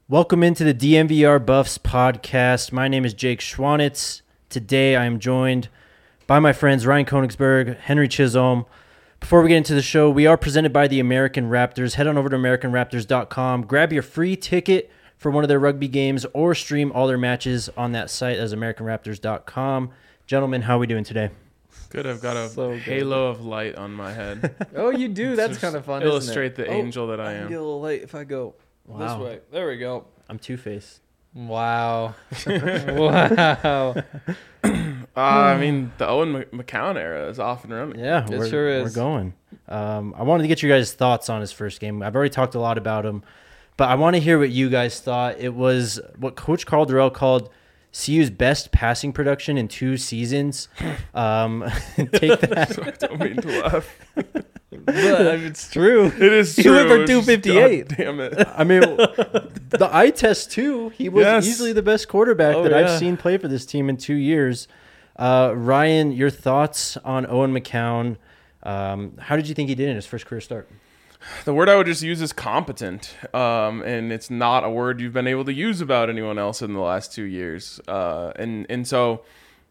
Welcome into the DMVR Buffs podcast. My name is Jake Schwanitz. Today I am joined by my friends Ryan Koenigsberg, Henry Chisholm. Before we get into the show, we are presented by the American Raptors. Head on over to AmericanRaptors.com. Grab your free ticket for one of their rugby games or stream all their matches on that site as AmericanRaptors.com. Gentlemen, how are we doing today? Good. I've got a halo of light on my head. Oh, you do? That's kind of fun, Illustrate isn't it? the angel that I can am. get a little light if I go this way. There we go. I'm Two-Face. Wow. Wow. I mean, the Owen McCown era is off and running. Yeah, It sure is. We're going. I wanted to get you guys' thoughts on his first game. I've already talked a lot about him, but I want to hear what you guys thought. It was what Coach Calderell called CU's best passing production in 2 seasons. Take that. I don't mean to laugh. But it's true. It is He true. went for It's just, 258. God damn it. I mean, the eye test, too. He was Yes. easily the best quarterback Oh, that yeah. I've seen play for this team in 2 years. Ryan, your thoughts on Owen McCown? How did you think he did in his first career start? The word I would just use is competent. And it's not a word you've been able to use about anyone else in the last 2 years. And so,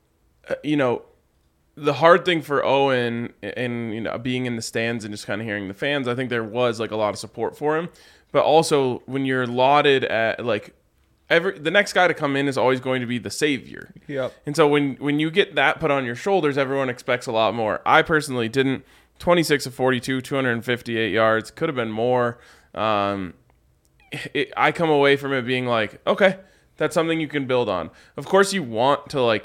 the hard thing for Owen and being in the stands and just kind of hearing the fans, I think there was like a lot of support for him. But also when you're lauded at like the next guy to come in is always going to be the savior. Yep. And so when you get that put on your shoulders, everyone expects a lot more. I personally didn't. 26 of 42, 258 yards, could have been more. I come away from it being like, okay, that's something you can build on. Of course you want to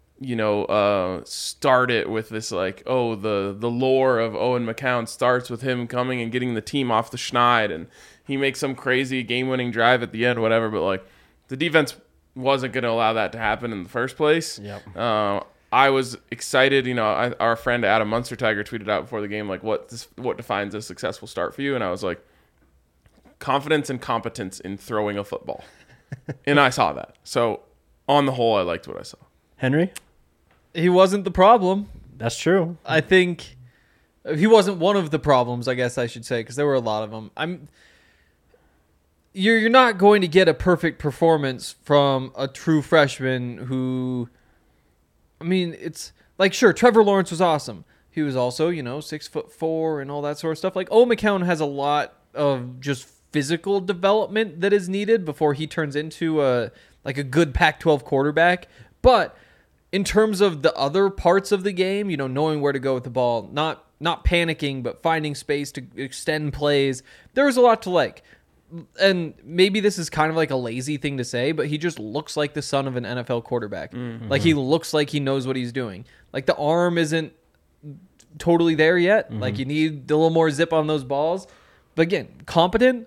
start it with this like, oh, the lore of Owen McCown starts with him coming and getting the team off the schneid, and he makes some crazy game-winning drive at the end, whatever. But like, the defense wasn't going to allow that to happen in the first place. Yep. I was excited. Our friend Adam Munstertiger tweeted out before the game like, what defines a successful start for you? And I was like, confidence and competence in throwing a football. And I saw that. So on the whole, I liked what I saw. Henry? He wasn't the problem. That's true. I think he wasn't one of the problems, I guess I should say, because there were a lot of them. You're not going to get a perfect performance from a true freshman who, I mean, it's like, sure, Trevor Lawrence was awesome. He was also, 6'4" and all that sort of stuff. Like, Owen McCown has a lot of just physical development that is needed before he turns into a good Pac-12 quarterback. But in terms of the other parts of the game, knowing where to go with the ball, not panicking, but finding space to extend plays, there was a lot to like. And maybe this is kind of like a lazy thing to say, but he just looks like the son of an NFL quarterback. Mm-hmm. Like, he looks like he knows what he's doing. Like, the arm isn't totally there yet. Mm-hmm. Like, you need a little more zip on those balls. But again, competent.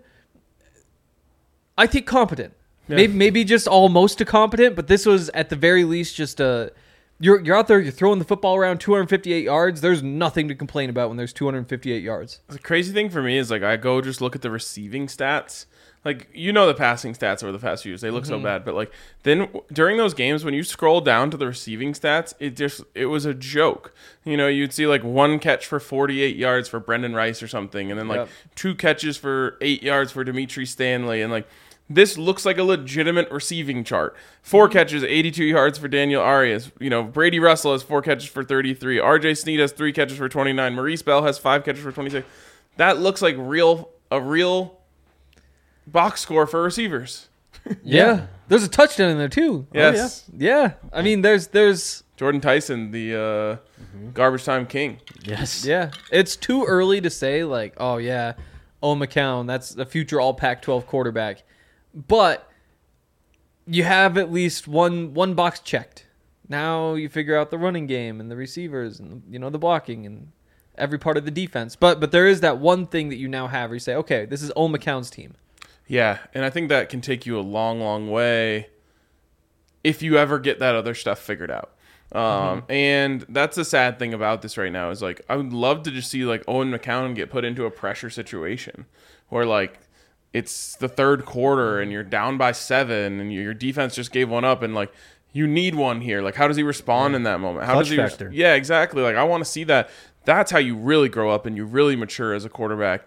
I think competent. Yeah. Maybe just almost a competent, but this was at the very least just a... You're out there, you're throwing the football around 258 yards. There's nothing to complain about when there's 258 yards. The crazy thing for me is, like, I go just look at the receiving stats. Like, the passing stats over the past few years. They look so bad. But, like, then during those games, when you scroll down to the receiving stats, it was a joke. You'd see, like, 1 catch for 48 yards for Brendan Rice or something. And then, like, 2 catches for 8 yards for Dimitri Stanley. And, like, this looks like a legitimate receiving chart. 4 catches, 82 yards for Daniel Arias. Brady Russell has 4 catches for 33. RJ Sneed has 3 catches for 29. Maurice Bell has 5 catches for 26. That looks like a real box score for receivers. Yeah. There's a touchdown in there too. Yes. Oh, yeah. I mean, there's Jordan Tyson, the garbage time king. Yes. Yeah. It's too early to say like, oh yeah, Owen McCown, that's the future all Pac-12 quarterback. But you have at least one box checked. Now you figure out the running game and the receivers and the blocking and every part of the defense. But there is that one thing that you now have where you say, okay, this is Owen McCown's team. Yeah, and I think that can take you a long, long way if you ever get that other stuff figured out. And that's the sad thing about this right now is like I would love to just see like Owen McCown get put into a pressure situation where like it's the third quarter and you're down by 7 and your defense just gave one up and like you need one here. Like how does he respond in that moment? How Clutch does he factor. Yeah, exactly. Like I want to see that. That's how you really grow up and you really mature as a quarterback.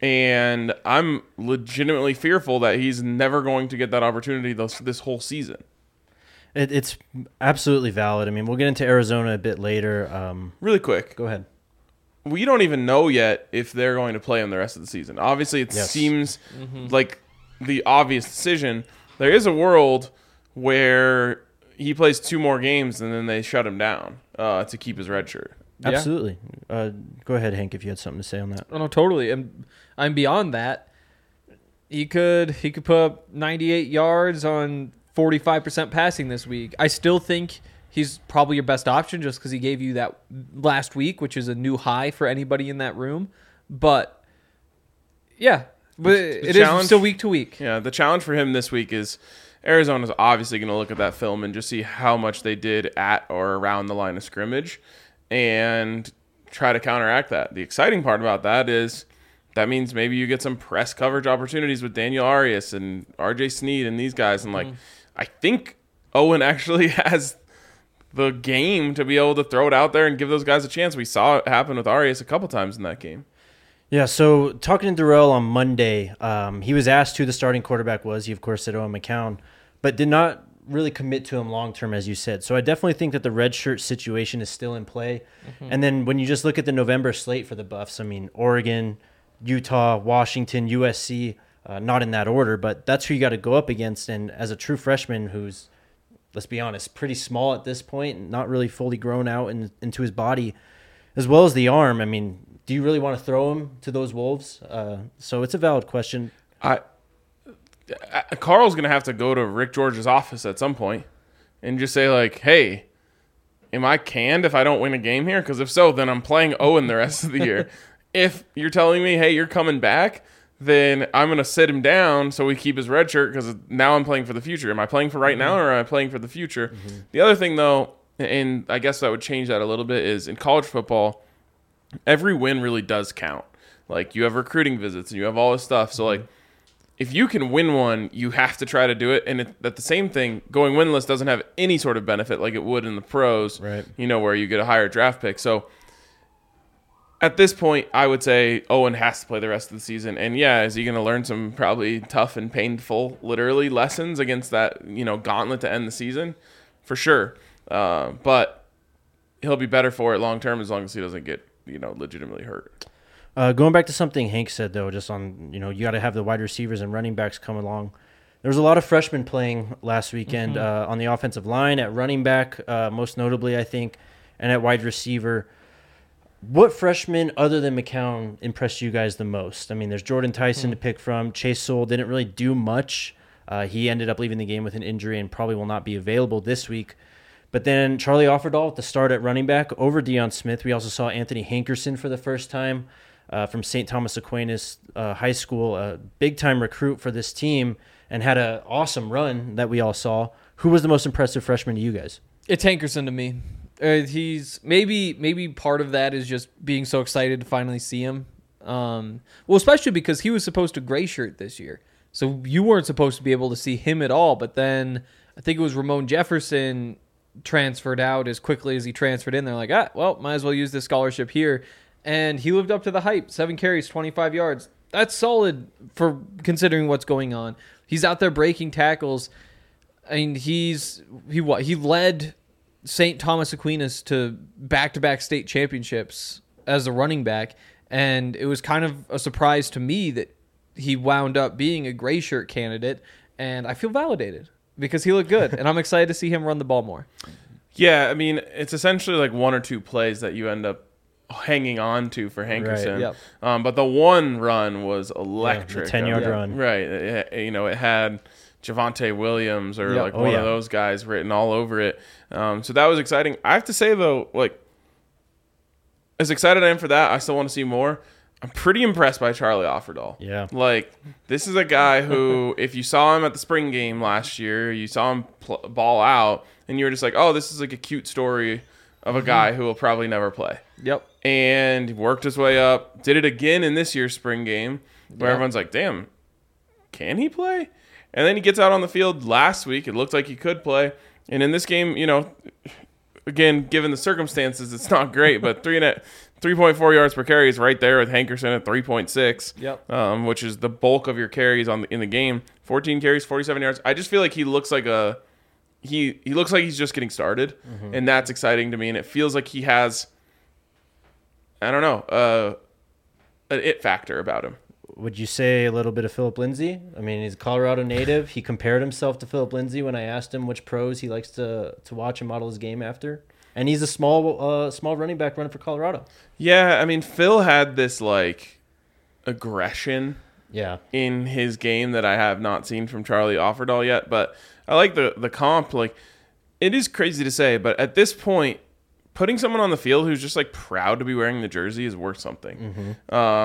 And I'm legitimately fearful that he's never going to get that opportunity this whole season. It's absolutely valid. I mean, we'll get into Arizona a bit later. Really quick. Go ahead. We don't even know yet if they're going to play him the rest of the season. Obviously, it seems like the obvious decision. There is a world where he plays 2 more games and then they shut him down to keep his red shirt. Yeah. Absolutely. Go ahead, Hank, if you had something to say on that. Oh, no, totally. And I'm beyond that. He could put up 98 yards on 45% passing this week. I still think he's probably your best option just because he gave you that last week, which is a new high for anybody in that room. But, yeah, but it is still week to week. Yeah, the challenge for him this week is Arizona's obviously going to look at that film and just see how much they did at or around the line of scrimmage and try to counteract that. The exciting part about that is that means maybe you get some press coverage opportunities with Daniel Arias and RJ Sneed and these guys. And, I think Owen actually has the game to be able to throw it out there and give those guys a chance. We saw it happen with Arias a couple times in that game. Yeah, so talking to Darrell on Monday, he was asked who the starting quarterback was. He, of course, said Owen McCown, but did not really commit to him long-term, as you said. So I definitely think that the redshirt situation is still in play. And then when you just look at the November slate for the Buffs, I mean, Oregon, Utah, Washington, USC, not in that order, but that's who you got to go up against. And as a true freshman who's, let's be honest, pretty small at this point, not really fully grown out into his body, as well as the arm, I mean, do you really want to throw him to those Wolves? So it's a valid question. Carl's going to have to go to Rick George's office at some point and just say, like, hey, am I canned if I don't win a game here? Because if so, then I'm playing Owen the rest of the year. If you're telling me, hey, you're coming back, then I'm going to sit him down so we keep his red shirt because now I'm playing for the future. Am I playing for right now or am I playing for the future? The other thing, though, and I guess that would change that a little bit, is in college football, every win really does count. Like, you have recruiting visits and you have all this stuff. So, like, if you can win one, you have to try to do it. And that the same thing, going winless doesn't have any sort of benefit like it would in the pros, right? Where you get a higher draft pick. So, at this point, I would say Owen has to play the rest of the season. And, yeah, is he going to learn some probably tough and painful, literally, lessons against that, gauntlet to end the season? For sure. But he'll be better for it long term as long as he doesn't get, legitimately hurt. Going back to something Hank said, though, just on, you got to have the wide receivers and running backs come along. There was a lot of freshmen playing last weekend on the offensive line, at running back, most notably, I think, and at wide receiver. What freshman other than McCown impressed you guys the most? I mean, there's Jordan Tyson to pick from. Chase Sewell didn't really do much. He ended up leaving the game with an injury and probably will not be available this week. But then Charlie Offerdahl at the start at running back over Deion Smith. We also saw Anthony Hankerson for the first time from St. Thomas Aquinas High School, a big-time recruit for this team, and had an awesome run that we all saw. Who was the most impressive freshman to you guys? It's Hankerson to me. He's maybe part of that is just being so excited to finally see him. Well, especially because he was supposed to gray shirt this year, so you weren't supposed to be able to see him at all. But then I think it was Ramon Jefferson transferred out as quickly as he transferred in. They're like, well, might as well use this scholarship here, and he lived up to the hype. 7 carries, 25 yards. That's solid for considering what's going on. He's out there breaking tackles. I mean, he led St. Thomas Aquinas to back-to-back state championships as a running back, and it was kind of a surprise to me that he wound up being a gray shirt candidate, and I feel validated because he looked good, and I'm excited to see him run the ball more. Yeah, I mean, it's essentially like 1 or 2 plays that you end up hanging on to for Hankerson. Right, yep. But the one run was electric. The 10-yard run. Right. It had Javonte Williams or one of those guys written all over it. So that was exciting. I have to say, though, like, as excited I am for that, I still want to see more. I'm pretty impressed by Charlie Offerdahl. Yeah. Like, this is a guy who, if you saw him at the spring game last year, you saw him ball out, and you were just like, oh, this is like a cute story of a guy who will probably never play. Yep. And worked his way up. Did it again in this year's spring game, where everyone's like, damn, can he play? And then he gets out on the field last week. It looked like he could play. And in this game, again, given the circumstances, it's not great, but 3.4 yards per carry is right there with Hankerson at 3.6. Yep. Which is the bulk of your carries in the game. 14 carries, 47 yards. I just feel like he looks like he looks like he's just getting started, and that's exciting to me. And it feels like he has, I don't know, an it factor about him. Would you say a little bit of Philip Lindsay? I mean, he's a Colorado native. He compared himself to Philip Lindsay when I asked him which pros he likes to watch and model his game after. And he's a small running back running for Colorado. Yeah, I mean, Phil had this like aggression in his game that I have not seen from Charlie Offerdahl yet. But I like the comp. Like, it is crazy to say, but at this point, putting someone on the field who's just like proud to be wearing the jersey is worth something.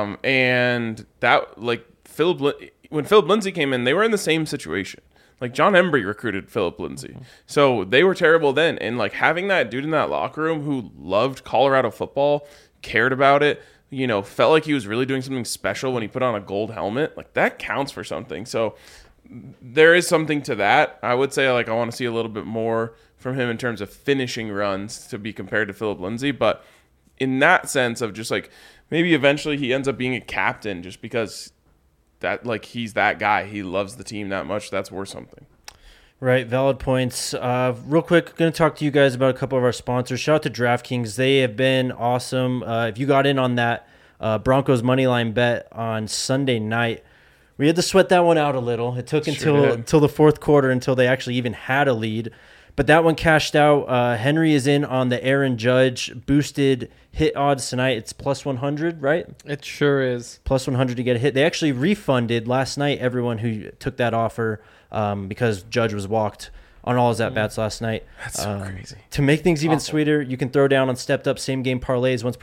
And that, like, when Philip Lindsay came in, they were in the same situation. Like, John Embry recruited Philip Lindsay. So they were terrible then. And like having that dude in that locker room who loved Colorado football, cared about it, felt like he was really doing something special when he put on a gold helmet, like that counts for something. So there is something to that. I would say, like, I want to see a little bit more from him in terms of finishing runs to be compared to Philip Lindsay. But in that sense of just like maybe eventually he ends up being a captain just because that, like, he's that guy. He loves the team that much. That's worth something. Right, valid points. Real quick, going to talk to you guys about a couple of our sponsors. Shout out to DraftKings. They have been awesome. If you got in on that Broncos moneyline bet on Sunday night, we had to sweat that one out a little. It took until the fourth quarter until they actually even had a lead. But that one cashed out. Henry is in on the Aaron Judge boosted hit odds tonight. It's plus 100, right? It sure is. Plus 100 to get a hit. They actually refunded last night everyone who took that offer because Judge was walked on all his at-bats last night. That's so crazy. To make things even sweeter, you can throw down on stepped-up same-game parlays once per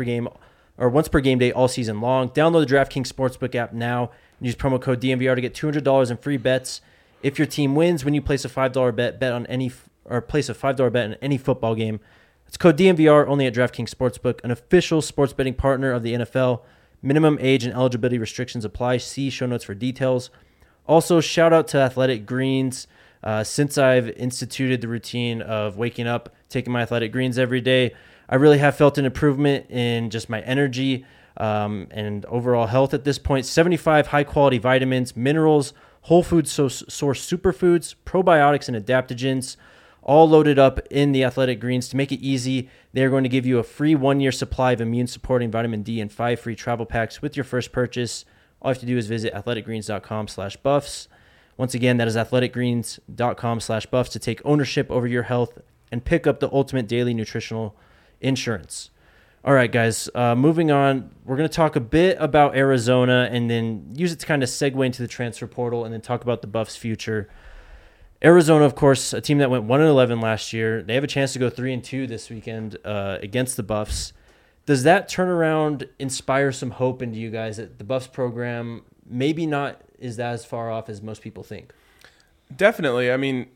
game day all season long. Download the DraftKings Sportsbook app now and use promo code DNVR to get $200 in free bets. If your team wins when you place a $5 bet on any place a $5 bet in any football game. It's code DNVR only at DraftKings Sportsbook, an official sports betting partner of the NFL. Minimum age and eligibility restrictions apply. See show notes for details. Also, shout out to Athletic Greens. Since I've instituted the routine of waking up, taking my Athletic Greens every day, I really have felt an improvement in just my energy and overall health at this point. 75 high-quality vitamins, minerals, whole food source superfoods, probiotics, and adaptogens, all loaded up in the Athletic Greens. To make it easy, they're going to give you a free 1-year supply of immune-supporting vitamin D and 5 free travel packs with your first purchase. All you have to do is visit athleticgreens.com/buffs. Once again, that is athleticgreens.com/buffs to take ownership over your health and pick up the ultimate daily nutritional insurance. All right, guys, moving on. We're going to talk a bit about Arizona and then use it to kind of segue into the transfer portal and then talk about the Buffs' future. Arizona, of course, a team that went 1-11 last year. They have a chance to go 3-2 this weekend against the Buffs. Does that turnaround inspire some hope into you guys that the Buffs program maybe not is as far off as most people think? Definitely. I mean,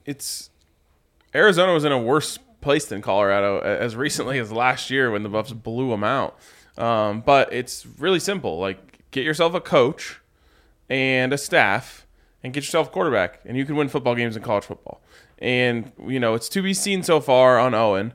Arizona was in a worse place than Colorado as recently as last year when the Buffs blew them out. But it's really simple. Like, get yourself a coach and a staff and get yourself a quarterback, and you can win football games in college football. And, it's to be seen so far on Owen.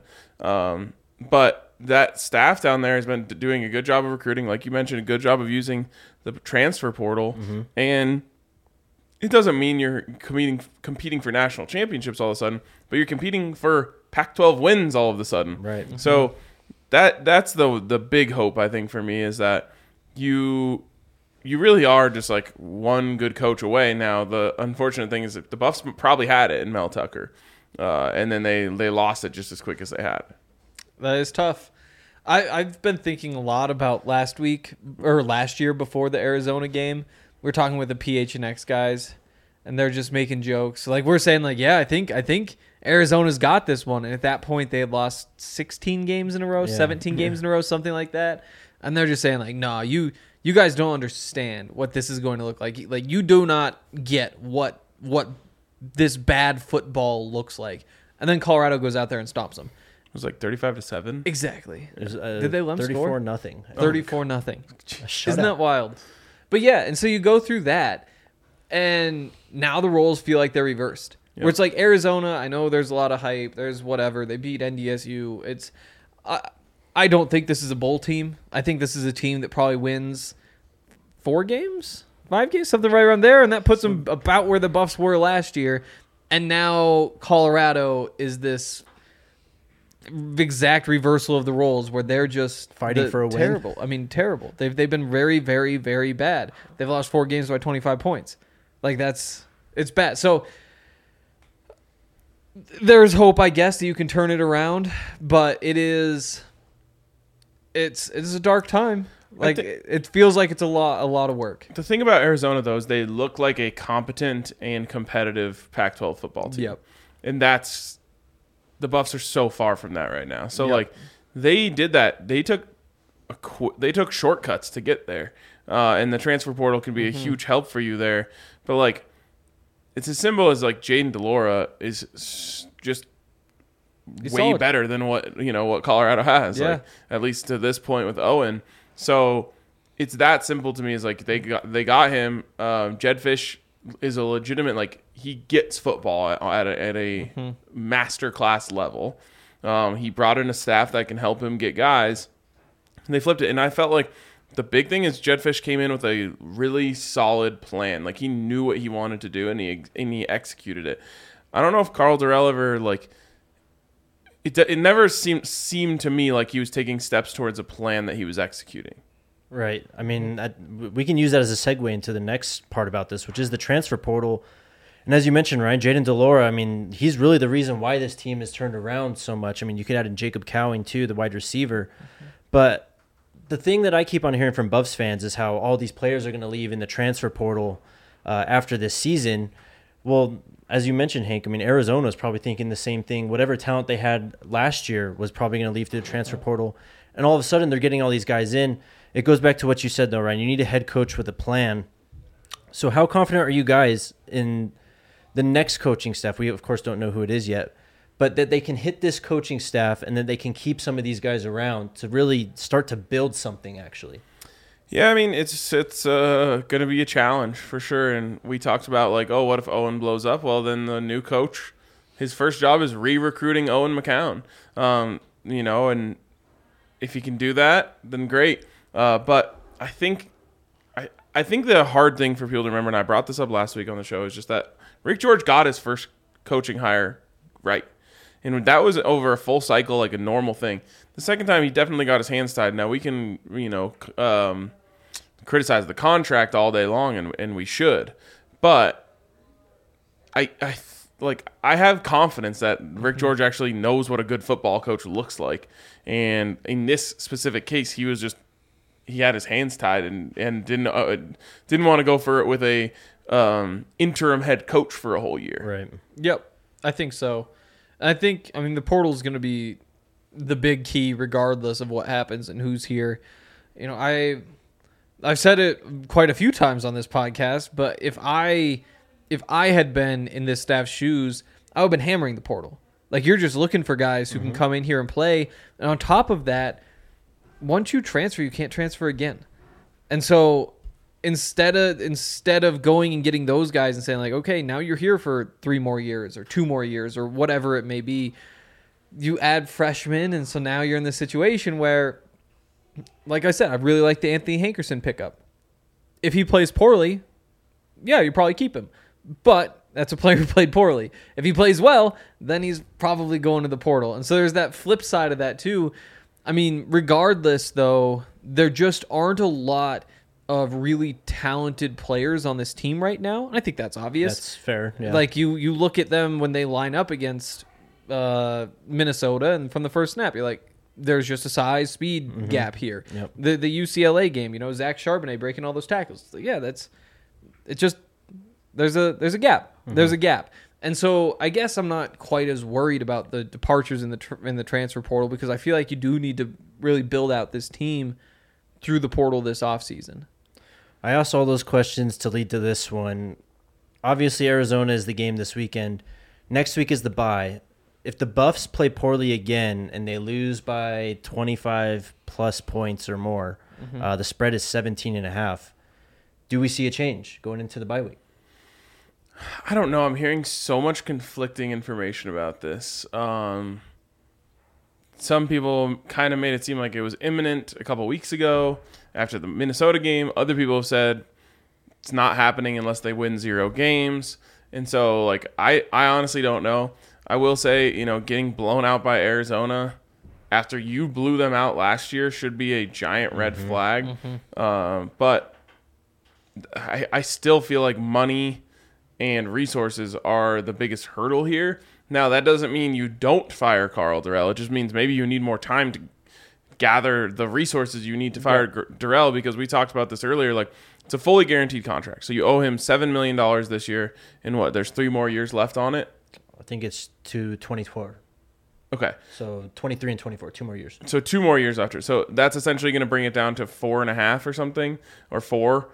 But that staff down there has been doing a good job of recruiting. Like you mentioned, a good job of using the transfer portal. Mm-hmm. And it doesn't mean you're competing for national championships all of a sudden, but you're competing for Pac-12 wins all of a sudden. Right. Mm-hmm. So that's the big hope, I think, for me, is that you really are just like one good coach away. Now, the unfortunate thing is that the Buffs probably had it in Mel Tucker, and then they lost it just as quick as they had. That is tough. I've been thinking a lot about last year before the Arizona game. We're talking with the PHNX guys, and they're just making jokes. Like, we're saying, like, yeah, I think Arizona's got this one. And at that point, they had lost 16 games in a row, 17 games in a row, something like that. And they're just saying, like, no, you guys don't understand what this is going to look like. Like, you do not get what this bad football looks like. And then Colorado goes out there and stomps them. It was like 35-7. Exactly. Did they let them score? 34-0. 34-0. Isn't that wild? But yeah, and so you go through that, and now the roles feel like they're reversed. Yep. Where it's like Arizona, I know there's a lot of hype, there's whatever, they beat NDSU. I don't think this is a bowl team. I think this is a team that probably wins 4 games, 5 games, something right around there, and that puts them about where the Buffs were last year. And now Colorado is this exact reversal of the roles where they're just fighting for a win. Terrible. I mean, terrible. They've been very, very, very bad. They've lost 4 games by 25 points. Like it's bad. So there's hope, I guess, that you can turn it around, but it's a dark time. Like it feels like it's a lot of work. The thing about Arizona, though, is they look like a competent and competitive Pac-12 football team. Yep. And that's the Buffs are so far from that right now. So Yep. like they did that. They took shortcuts to get there, and the transfer portal can be a huge help for you there. But like, it's as simple as like Jaden DeLora is just He's way solid. better than what Colorado has. Yeah. Like, at least to this point with Owen. So it's that simple to me. Is like they got him. Jed Fish is a legitimate, like, he gets football at a master class level. He brought in a staff that can help him get guys. And they flipped it, and I felt like the big thing is Jed Fish came in with a really solid plan. Like, he knew what he wanted to do, and he executed it. I don't know if Carl Durrell ever, like, it never seemed to me like he was taking steps towards a plan that he was executing. Right. I mean, we can use that as a segue into the next part about this, which is the transfer portal. And as you mentioned, Ryan, Jaden DeLora, I mean, he's really the reason why this team has turned around so much. I mean, you could add in Jacob Cowing, too, the wide receiver. But the thing that I keep on hearing from Buffs fans is how all these players are going to leave in the transfer portal after this season. Well, as you mentioned, Hank, I mean, Arizona is probably thinking the same thing. Whatever talent they had last year was probably going to leave through the transfer portal. And all of a sudden, they're getting all these guys in. It goes back to what you said, though, Ryan. You need a head coach with a plan. So how confident are you guys in the next coaching staff? We, of course, don't know who it is yet. But that they can hit this coaching staff and that they can keep some of these guys around to really start to build something, actually. Yeah, I mean, it's going to be a challenge for sure. And we talked about, like, oh, what if Owen blows up? Well, then the new coach, his first job is re-recruiting Owen McCown. And if he can do that, then great. But I think the hard thing for people to remember, and I brought this up last week on the show, is just that Rick George got his first coaching hire right. And that was over a full cycle, like a normal thing. The second time, he definitely got his hands tied. Now, we can, criticize the contract all day long, and we should. But I have confidence that Rick George actually knows what a good football coach looks like. And in this specific case, he had his hands tied and didn't want to go for it with a interim head coach for a whole year. Right. Yep, I think so. I mean, the portal is going to be the big key regardless of what happens and who's here. You know, I've said it quite a few times on this podcast, but if I had been in this staff's shoes, I would have been hammering the portal. Like, you're just looking for guys who can come in here and play. And on top of that, once you transfer, you can't transfer again. And so instead of going and getting those guys and saying, like, okay, now you're here for 3 more years or 2 more years or whatever it may be, you add freshmen. And so now you're in this situation where, like I said, I really like the Anthony Hankerson pickup. If he plays poorly, yeah, you probably keep him. But that's a player who played poorly. If he plays well, then he's probably going to the portal. And so there's that flip side of that too. I mean, regardless, though, there just aren't a lot of really talented players on this team right now. And I think that's obvious. That's fair. Yeah. Like, you look at them when they line up against Minnesota, and from the first snap, you're like, there's just a size speed gap here. Yep. The UCLA game, Zach Charbonnet breaking all those tackles. Yeah, there's a gap. There's a gap. And so I guess I'm not quite as worried about the departures in the transfer portal, because I feel like you do need to really build out this team through the portal this offseason. I asked all those questions to lead to this one. Obviously, Arizona is the game this weekend. Next week is the bye. If the Buffs play poorly again and they lose by 25-plus points or more, the spread is 17.5. Do we see a change going into the bye week? I don't know. I'm hearing so much conflicting information about this. some people kind of made it seem like it was imminent a couple weeks ago after the Minnesota game. Other people have said it's not happening unless they win 0 games. And so, like, I honestly don't know. I will say, getting blown out by Arizona after you blew them out last year should be a giant red flag. But I still feel like money and resources are the biggest hurdle here. Now, that doesn't mean you don't fire Karl Dorrell. It just means maybe you need more time to gather the resources you need to fire Dorrell, because we talked about this earlier. Like, it's a fully guaranteed contract. So you owe him $7 million this year. And there's 3 more years left on it? I think it's to 24. Okay. So 23 and 24, 2 more years. So 2 more years after. So that's essentially going to bring it down to 4.5 or something, or 4.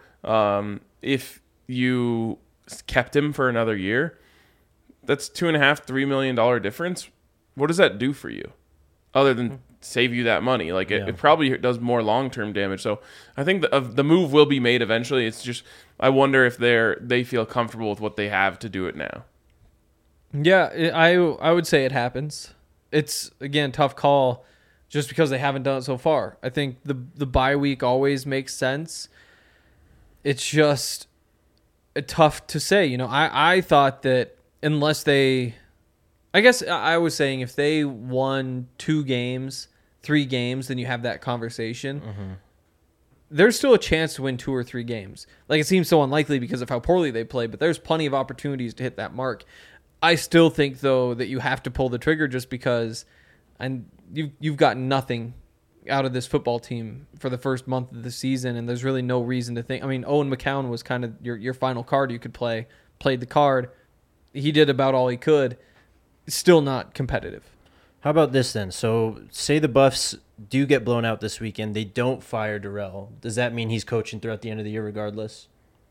If you kept him for another year, that's $2.5-3 million difference. What does that do for you, other than save you that money? Like it probably does more long-term damage. So I think the move will be made eventually. It's just, I wonder if they feel comfortable with what they have to do it now. Yeah, I would say it happens. It's, again, tough call just because they haven't done it so far. I think the bye week always makes sense. It's just tough to say. I thought that unless I guess I was saying if they won 2 games, 3 games, then you have that conversation. There's still a chance to win 2 or 3 games. Like, it seems so unlikely because of how poorly they play, but there's plenty of opportunities to hit that mark. I still think, though, that you have to pull the trigger just because you've got nothing out of this football team for the first month of the season, and there's really no reason to think. I mean, Owen McCown was kind of your final card you could play. Played the card. He did about all he could. Still not competitive. How about this then? So say the Buffs do get blown out this weekend. They don't fire Dorrell. Does that mean he's coaching throughout the end of the year regardless?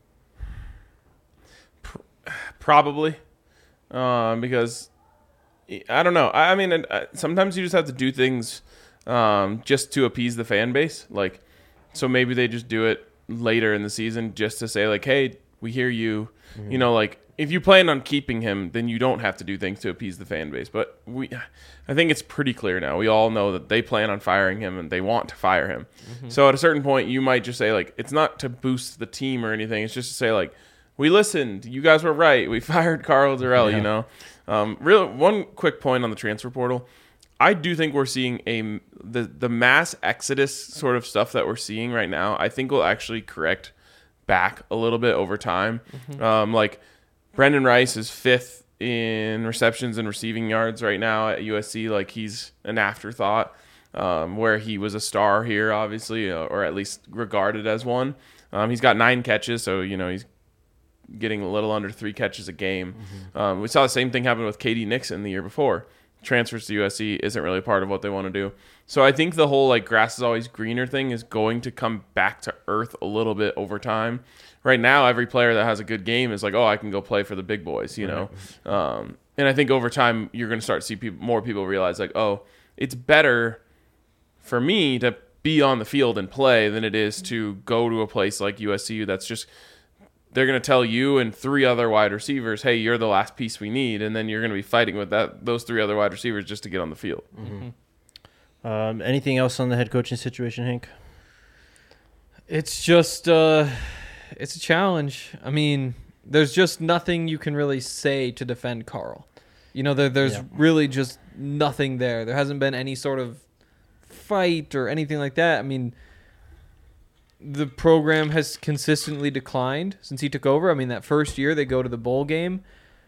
Probably. Because I don't know. I mean, sometimes you just have to do things just to appease the fan base. Like, so maybe they just do it later in the season just to say, like, hey, we hear you. Like, if you plan on keeping him, then you don't have to do things to appease the fan base. But I think it's pretty clear now. We all know that they plan on firing him and they want to fire him. So at a certain point, you might just say, like, it's not to boost the team or anything. It's just to say, like, we listened. You guys were right. We fired Karl Dorrell, Really, one quick point on the transfer portal. I do think we're seeing the mass exodus sort of stuff that we're seeing right now, I think will actually correct back a little bit over time. Like, Brendan Rice is 5th in receptions and receiving yards right now at USC. Like, he's an afterthought, where he was a star here, obviously, or at least regarded as one. He's got 9 catches, so, he's getting a little under 3 catches a game. We saw the same thing happen with KD Nixon the year before. Transfers to USC isn't really part of what they want to do. So I think the whole, like, grass is always greener thing is going to come back to earth a little bit over time. Right now, every player that has a good game is like, oh, I can go play for the big boys, know. And I think over time, you're going to start to see more people realize, like, oh, it's better for me to be on the field and play than it is to go to a place like USC that's just – they're going to tell you and 3 other wide receivers, hey, you're the last piece we need, and then you're going to be fighting with those 3 other wide receivers just to get on the field. Anything else on the head coaching situation, Hank? It's just it's a challenge. I mean, there's just nothing you can really say to defend Karl. There's really just nothing there. There hasn't been any sort of fight or anything like that. I mean, the program has consistently declined since he took over. I mean, that first year they go to the bowl game.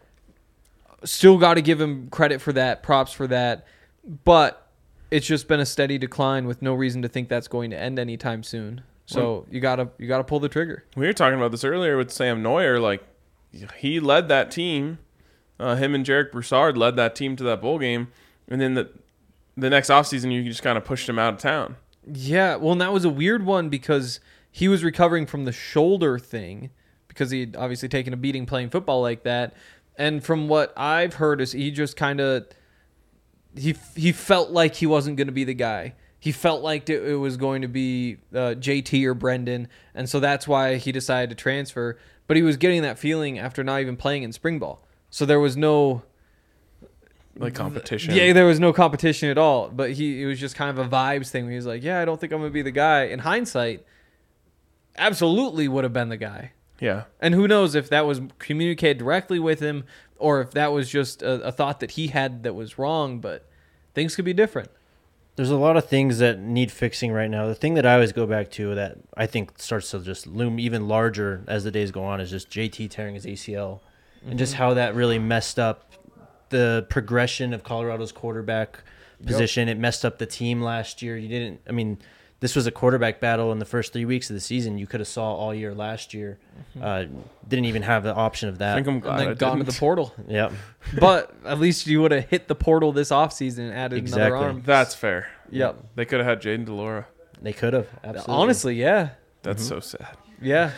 Still got to give him credit for that, props for that. But it's just been a steady decline with no reason to think that's going to end anytime soon. So you gotta pull the trigger. We were talking about this earlier with Sam Neuer. Like, he led that team. Him and Jarek Broussard led that team to that bowl game. And then the next offseason, you just kind of pushed him out of town. Yeah, well, and that was a weird one because he was recovering from the shoulder thing because he'd obviously taken a beating playing football like that. And from what I've heard is he just kind of he felt like he wasn't going to be the guy. He felt like it was going to be JT or Brendan, and so that's why he decided to transfer. But he was getting that feeling after not even playing in spring ball. So there was no like competition. Yeah, there was no competition at all. But it was just kind of a vibes thing. Where he was like, "Yeah, I don't think I'm gonna be the guy." In hindsight, absolutely would have been the guy. Yeah. And who knows if that was communicated directly with him or if that was just a thought that he had that was wrong. But things could be different. There's a lot of things that need fixing right now. The thing that I always go back to that I think starts to just loom even larger as the days go on is just JT tearing his ACL and just how that really messed up the progression of Colorado's quarterback position. It messed up the team last year. This was a quarterback battle in the first 3 weeks of the season. You could have saw all year last year. Didn't even have the option of that. I think I'm glad And I then gone to didn't. the portal. Yep. But at least you would have hit the portal this offseason and added Exactly. another arm. That's fair. Yep. They could have had Jaden DeLora. They could have. Absolutely. Honestly, yeah. That's so sad. Yeah.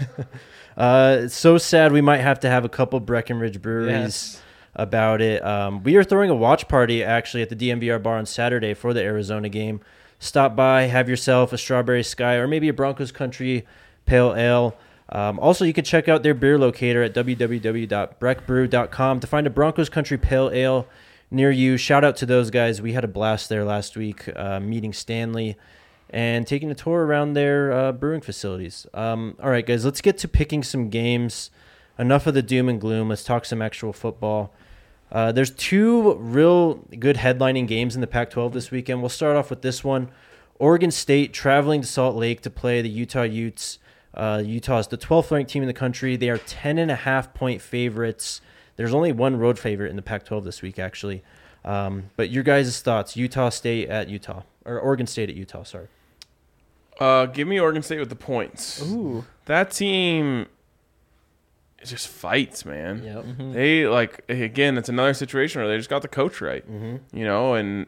It's so sad we might have to have a couple Breckenridge breweries Yes. about it. We are throwing a watch party actually at the DMVR bar on Saturday for the Arizona game. Stop by, have yourself a Strawberry Sky or maybe a Broncos Country Pale Ale. Also, you can check out their beer locator at www.breckbrew.com to find a Broncos Country Pale Ale near you. Shout out to those guys. We had a blast there last week meeting Stanley and taking a tour around their brewing facilities. All right, guys, let's get to picking some games. Enough of the doom and gloom. Let's talk some actual football. There's two real good headlining games in the Pac-12 this weekend. We'll start off with this one. Oregon State traveling to Salt Lake to play the Utah Utes. Utah is the 12th ranked team in the country. They are 10.5-point favorites. There's only one road favorite in the Pac-12 this week, actually. But your guys' thoughts, Utah State at Utah, or Oregon State at Utah, sorry. Give me Oregon State with the points. Ooh. That team it just fights, man. Yep. They again, it's another situation where they just got the coach right. You know, and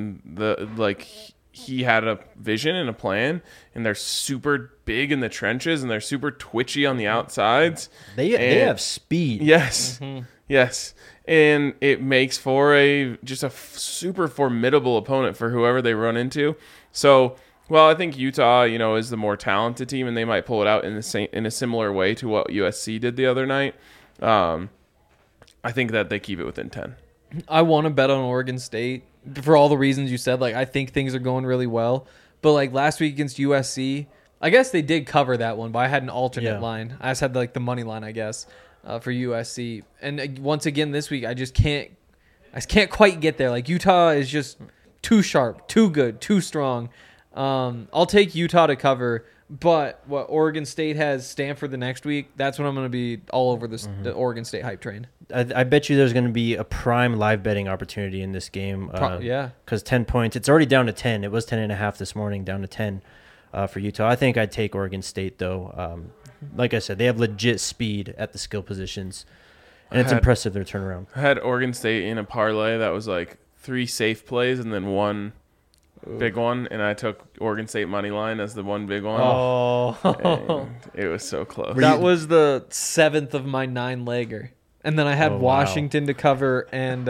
he had a vision and a plan, and they're super big in the trenches and they're super twitchy on the outsides. They have speed. Yes. Yes. And it makes for a super formidable opponent for whoever they run into. So, well, I think Utah, is the more talented team, and they might pull it out in a similar way to what USC did the other night. I think that they keep it within 10. I want to bet on Oregon State for all the reasons you said. Like, I think things are going really well. But, like, last week against USC, I guess they did cover that one, but I had an alternate line. I just had, like, the money line, I guess, for USC. And once again this week, I can't quite get there. Like, Utah is just too sharp, too good, too strong. I'll take Utah to cover, but what Oregon State has Stanford the next week, that's when I'm going to be all over the Oregon State hype train. I bet you there's going to be a prime live betting opportunity in this game. Yeah. Because 10 points, it's already down to 10. It was 10.5 this morning, down to 10 for Utah. I think I'd take Oregon State, though. Like I said, they have legit speed at the skill positions, and it's impressive their turnaround. I had Oregon State in a parlay that was like 3 safe plays and then one big one, and I took Oregon State money line as the one big one. Oh. And it was so close. That was the 7th of my 9-legger. And then I had Oh, wow. Washington to cover and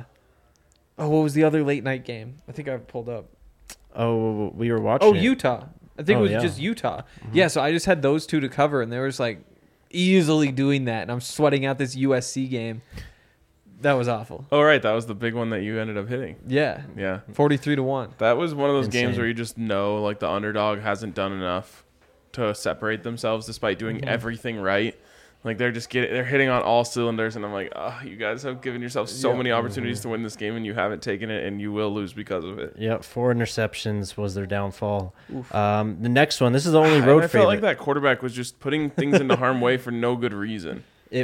what was the other late night game? I think I pulled up. Oh, we were watching it. Utah. I think it was yeah. just Utah. Yeah, so I just had those two to cover, and they were just like easily doing that, and I'm sweating out this USC game. That was awful. Oh, right. That was the big one that you ended up hitting. Yeah. Yeah. 43-1. That was one of those Insane. games where you just know, like, the underdog hasn't done enough to separate themselves despite doing everything right. Like, they're hitting on all cylinders, and I'm like, you guys have given yourself so many opportunities to win this game, and you haven't taken it, and you will lose because of it. Yep, 4 interceptions was their downfall. The next one, this is the only road And I favorite. felt like that quarterback was just putting things into harm's way for no good reason.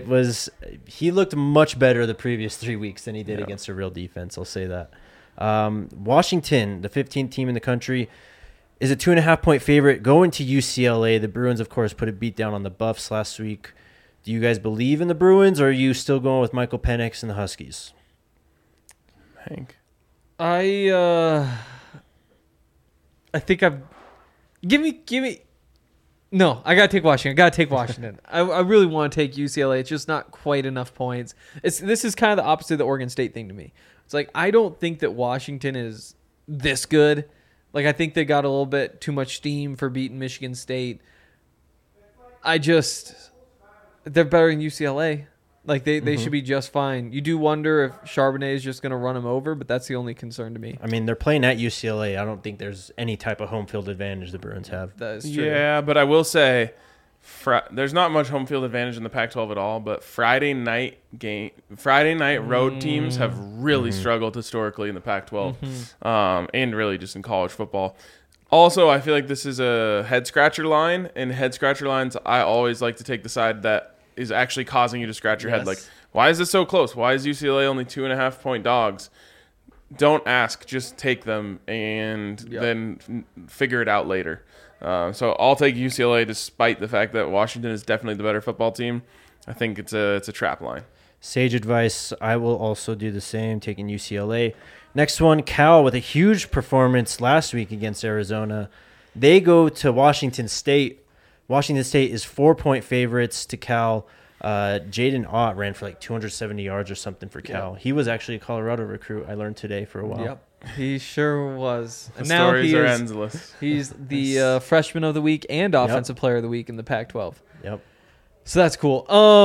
He looked much better the previous 3 weeks than he did against a real defense. I'll say that. Washington, the 15th team in the country, is a 2.5-point favorite going to UCLA. The Bruins, of course, put a beat down on the Buffs last week. Do you guys believe in the Bruins, or are you still going with Michael Penix and the Huskies? Hank. I think I've give me no, I gotta take Washington. I really want to take UCLA. It's just not quite enough points. This is kind of the opposite of the Oregon State thing to me. It's like I don't think that Washington is this good. Like I think they got a little bit too much steam for beating Michigan State. They're better than UCLA. Like they should be just fine. You do wonder if Charbonnet is just going to run them over, but that's the only concern to me. I mean, they're playing at UCLA. I don't think there's any type of home field advantage the Bruins have. That is true. Yeah, but I will say, there's not much home field advantage in the Pac-12 at all. But Friday night road teams have really struggled historically in the Pac-12, and really just in college football. Also, I feel like this is a head scratcher line, and head scratcher lines, I always like to take the side that is actually causing you to scratch your head. Like, why is this so close? Why is UCLA only 2.5-point dogs? Don't ask, just take them and then figure it out later. So I'll take UCLA despite the fact that Washington is definitely the better football team. I think it's a trap line. Sage advice. I will also do the same, taking UCLA. Next one, Cal with a huge performance last week against Arizona. They go to Washington State. Washington State is 4-point favorites to Cal. Jaden Ott ran for like 270 yards or something for Cal. Yep. He was actually a Colorado recruit, I learned today, for a while. Yep, he sure was. The stories are endless. He's the freshman of the week and offensive player of the week in the Pac-12. Yep. So that's cool.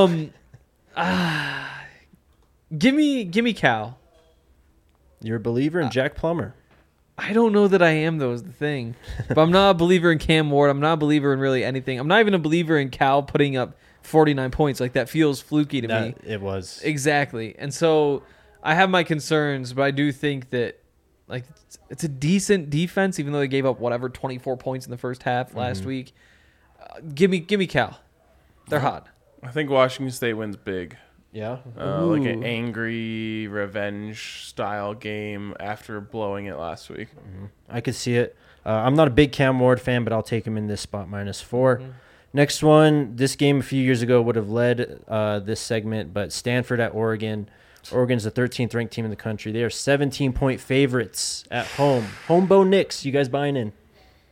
Give me Cal. You're a believer in Jack Plummer. I don't know that I am, though, is the thing. But I'm not a believer in Cam Ward. I'm not a believer in really anything. I'm not even a believer in Cal putting up 49 points. Like, that feels fluky to me. It was. Exactly. And so I have my concerns, but I do think that, like, it's a decent defense, even though they gave up, 24 points in the first half last week. Give me Cal. They're hot. I think Washington State wins big. Yeah. Like an angry revenge style game after blowing it last week. I could see it. I'm not a big Cam Ward fan, but I'll take him in this spot, -4. Next one, this game a few years ago would have led this segment, but Stanford at Oregon. Oregon's the 13th ranked team in the country. They are 17-point favorites at home. Home Bo Nix, you guys buying in?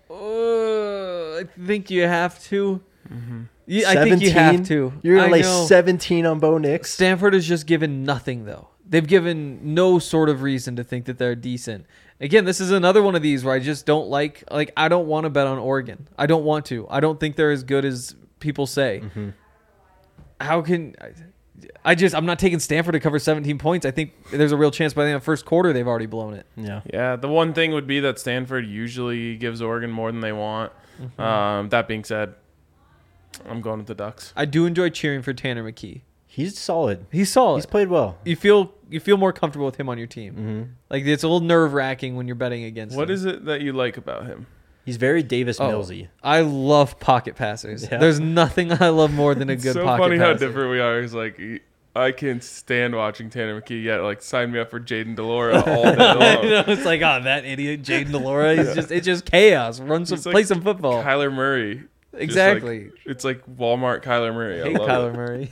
I think you have to. Yeah, I think you have to. You're going to lay 17 on Bo Nix? Stanford has just given nothing, though. They've given no sort of reason to think that they're decent. Again, this is another one of these where I just don't like I don't want to bet on Oregon. I don't want to. I don't think they're as good as people say. How can... I'm not taking Stanford to cover 17 points. I think there's a real chance by the end of the first quarter they've already blown it. Yeah, the one thing would be that Stanford usually gives Oregon more than they want. That being said, I'm going with the Ducks. I do enjoy cheering for Tanner McKee. He's solid. He's solid. He's played well. You feel more comfortable with him on your team. Like, it's a little nerve-wracking when you're betting against him. What is it that you like about him? He's very Davis Millsy. I love pocket passers. Yeah. There's nothing I love more than a good pocket passer. It's so funny how different we are. He's like, I can't stand watching Tanner McKee yet. Like, sign me up for Jaden Delora all day long. I know, it's like, that idiot Jaden Delora. It's just chaos. Play some football. Kyler Murray. Exactly. It's like Walmart Kyler Murray. I hate Kyler Murray.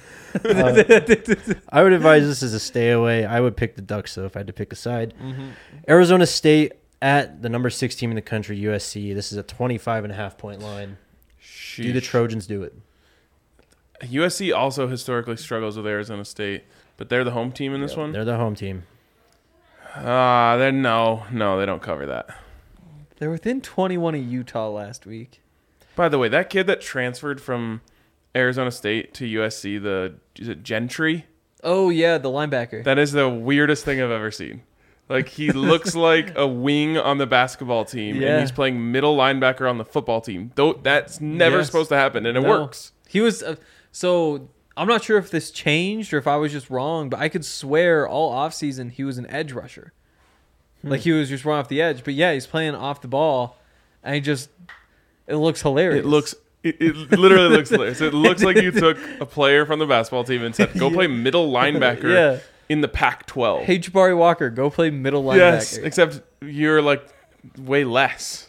I would advise this as a stay away. I would pick the Ducks, though, if I had to pick a side. Arizona State at the number 6 team in the country, USC. This is a 25.5-point line. Sheesh. Do the Trojans do it? USC also historically struggles with Arizona State, but they're the home team in this one? They're the home team. No, they don't cover that. They're within 21 of Utah last week. By the way, that kid that transferred from Arizona State to USC, is it Gentry? Oh, yeah, the linebacker. That is the weirdest thing I've ever seen. Like, he looks like a wing on the basketball team, and he's playing middle linebacker on the football team. That's never supposed to happen, and it works. He was... so, I'm not sure if this changed or if I was just wrong, but I could swear all offseason he was an edge rusher. Like, he was just run off the edge. But, yeah, he's playing off the ball, and it looks hilarious. It literally looks hilarious. It looks like you took a player from the basketball team and said, go play middle linebacker in the Pac-12. Hey, Jabari Walker, go play middle linebacker. Yes, except you're like way less.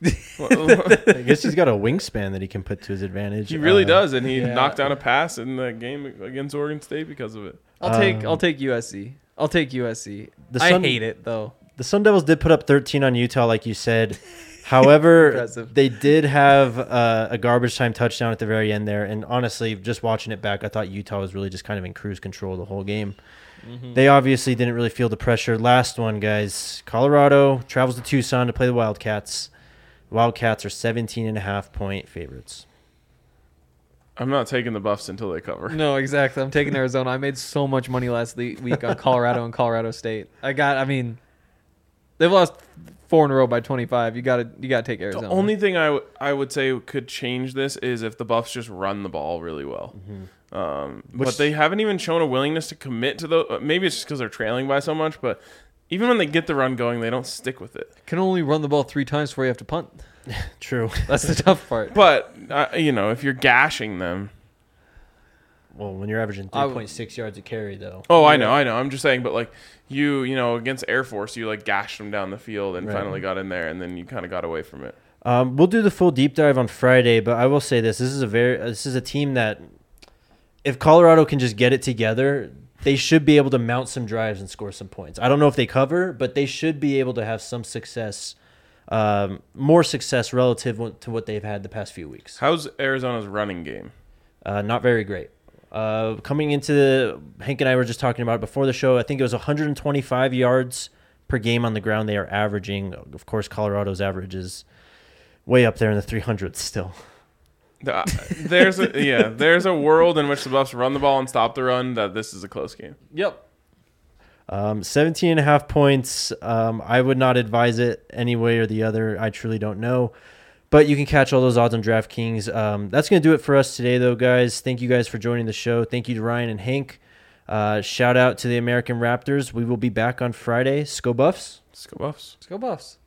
I guess he's got a wingspan that he can put to his advantage. He really does, and he knocked down a pass in the game against Oregon State because of it. I'll take USC. I'll take USC. I hate it, though. The Sun Devils did put up 13 on Utah, like you said. However, they did have a garbage time touchdown at the very end there. And honestly, just watching it back, I thought Utah was really just kind of in cruise control the whole game. They obviously didn't really feel the pressure. Last one, guys. Colorado travels to Tucson to play the Wildcats. Wildcats are 17.5-point favorites. I'm not taking the Buffs until they cover. No, exactly. I'm taking Arizona. I made so much money last week on Colorado and Colorado State. They've lost 4 in a row by 25. You got to take Arizona. The only thing I would say could change this is if the Buffs just run the ball really well. But they haven't even shown a willingness to commit to the. Maybe it's just because they're trailing by so much, but even when they get the run going, they don't stick with it. Can only run the ball 3 times before you have to punt. True. That's the tough part. But if you're gashing them. Well, when you're averaging 3.6 yards a carry, though. Oh, I know. I'm just saying, but like you against Air Force, you like gashed them down the field and finally got in there, and then you kind of got away from it. We'll do the full deep dive on Friday, but I will say this: this is a team that, if Colorado can just get it together, they should be able to mount some drives and score some points. I don't know if they cover, but they should be able to have some success, more success relative to what they've had the past few weeks. How's Arizona's running game? Not very great. Coming into Hank and I were just talking about it before the show. I think it was 125 yards per game on the ground they are averaging. Of course, Colorado's average is way up there in the 300s still. There's a world in which the Buffs run the ball and stop the run that this is a close game. Yep. 17.5 points. I would not advise it any way or the other. I truly don't know. But you can catch all those odds on DraftKings. That's going to do it for us today, though, guys. Thank you guys for joining the show. Thank you to Ryan and Hank. Shout out to the American Raptors. We will be back on Friday. Go Buffs. Let's go Buffs. Let's go Buffs.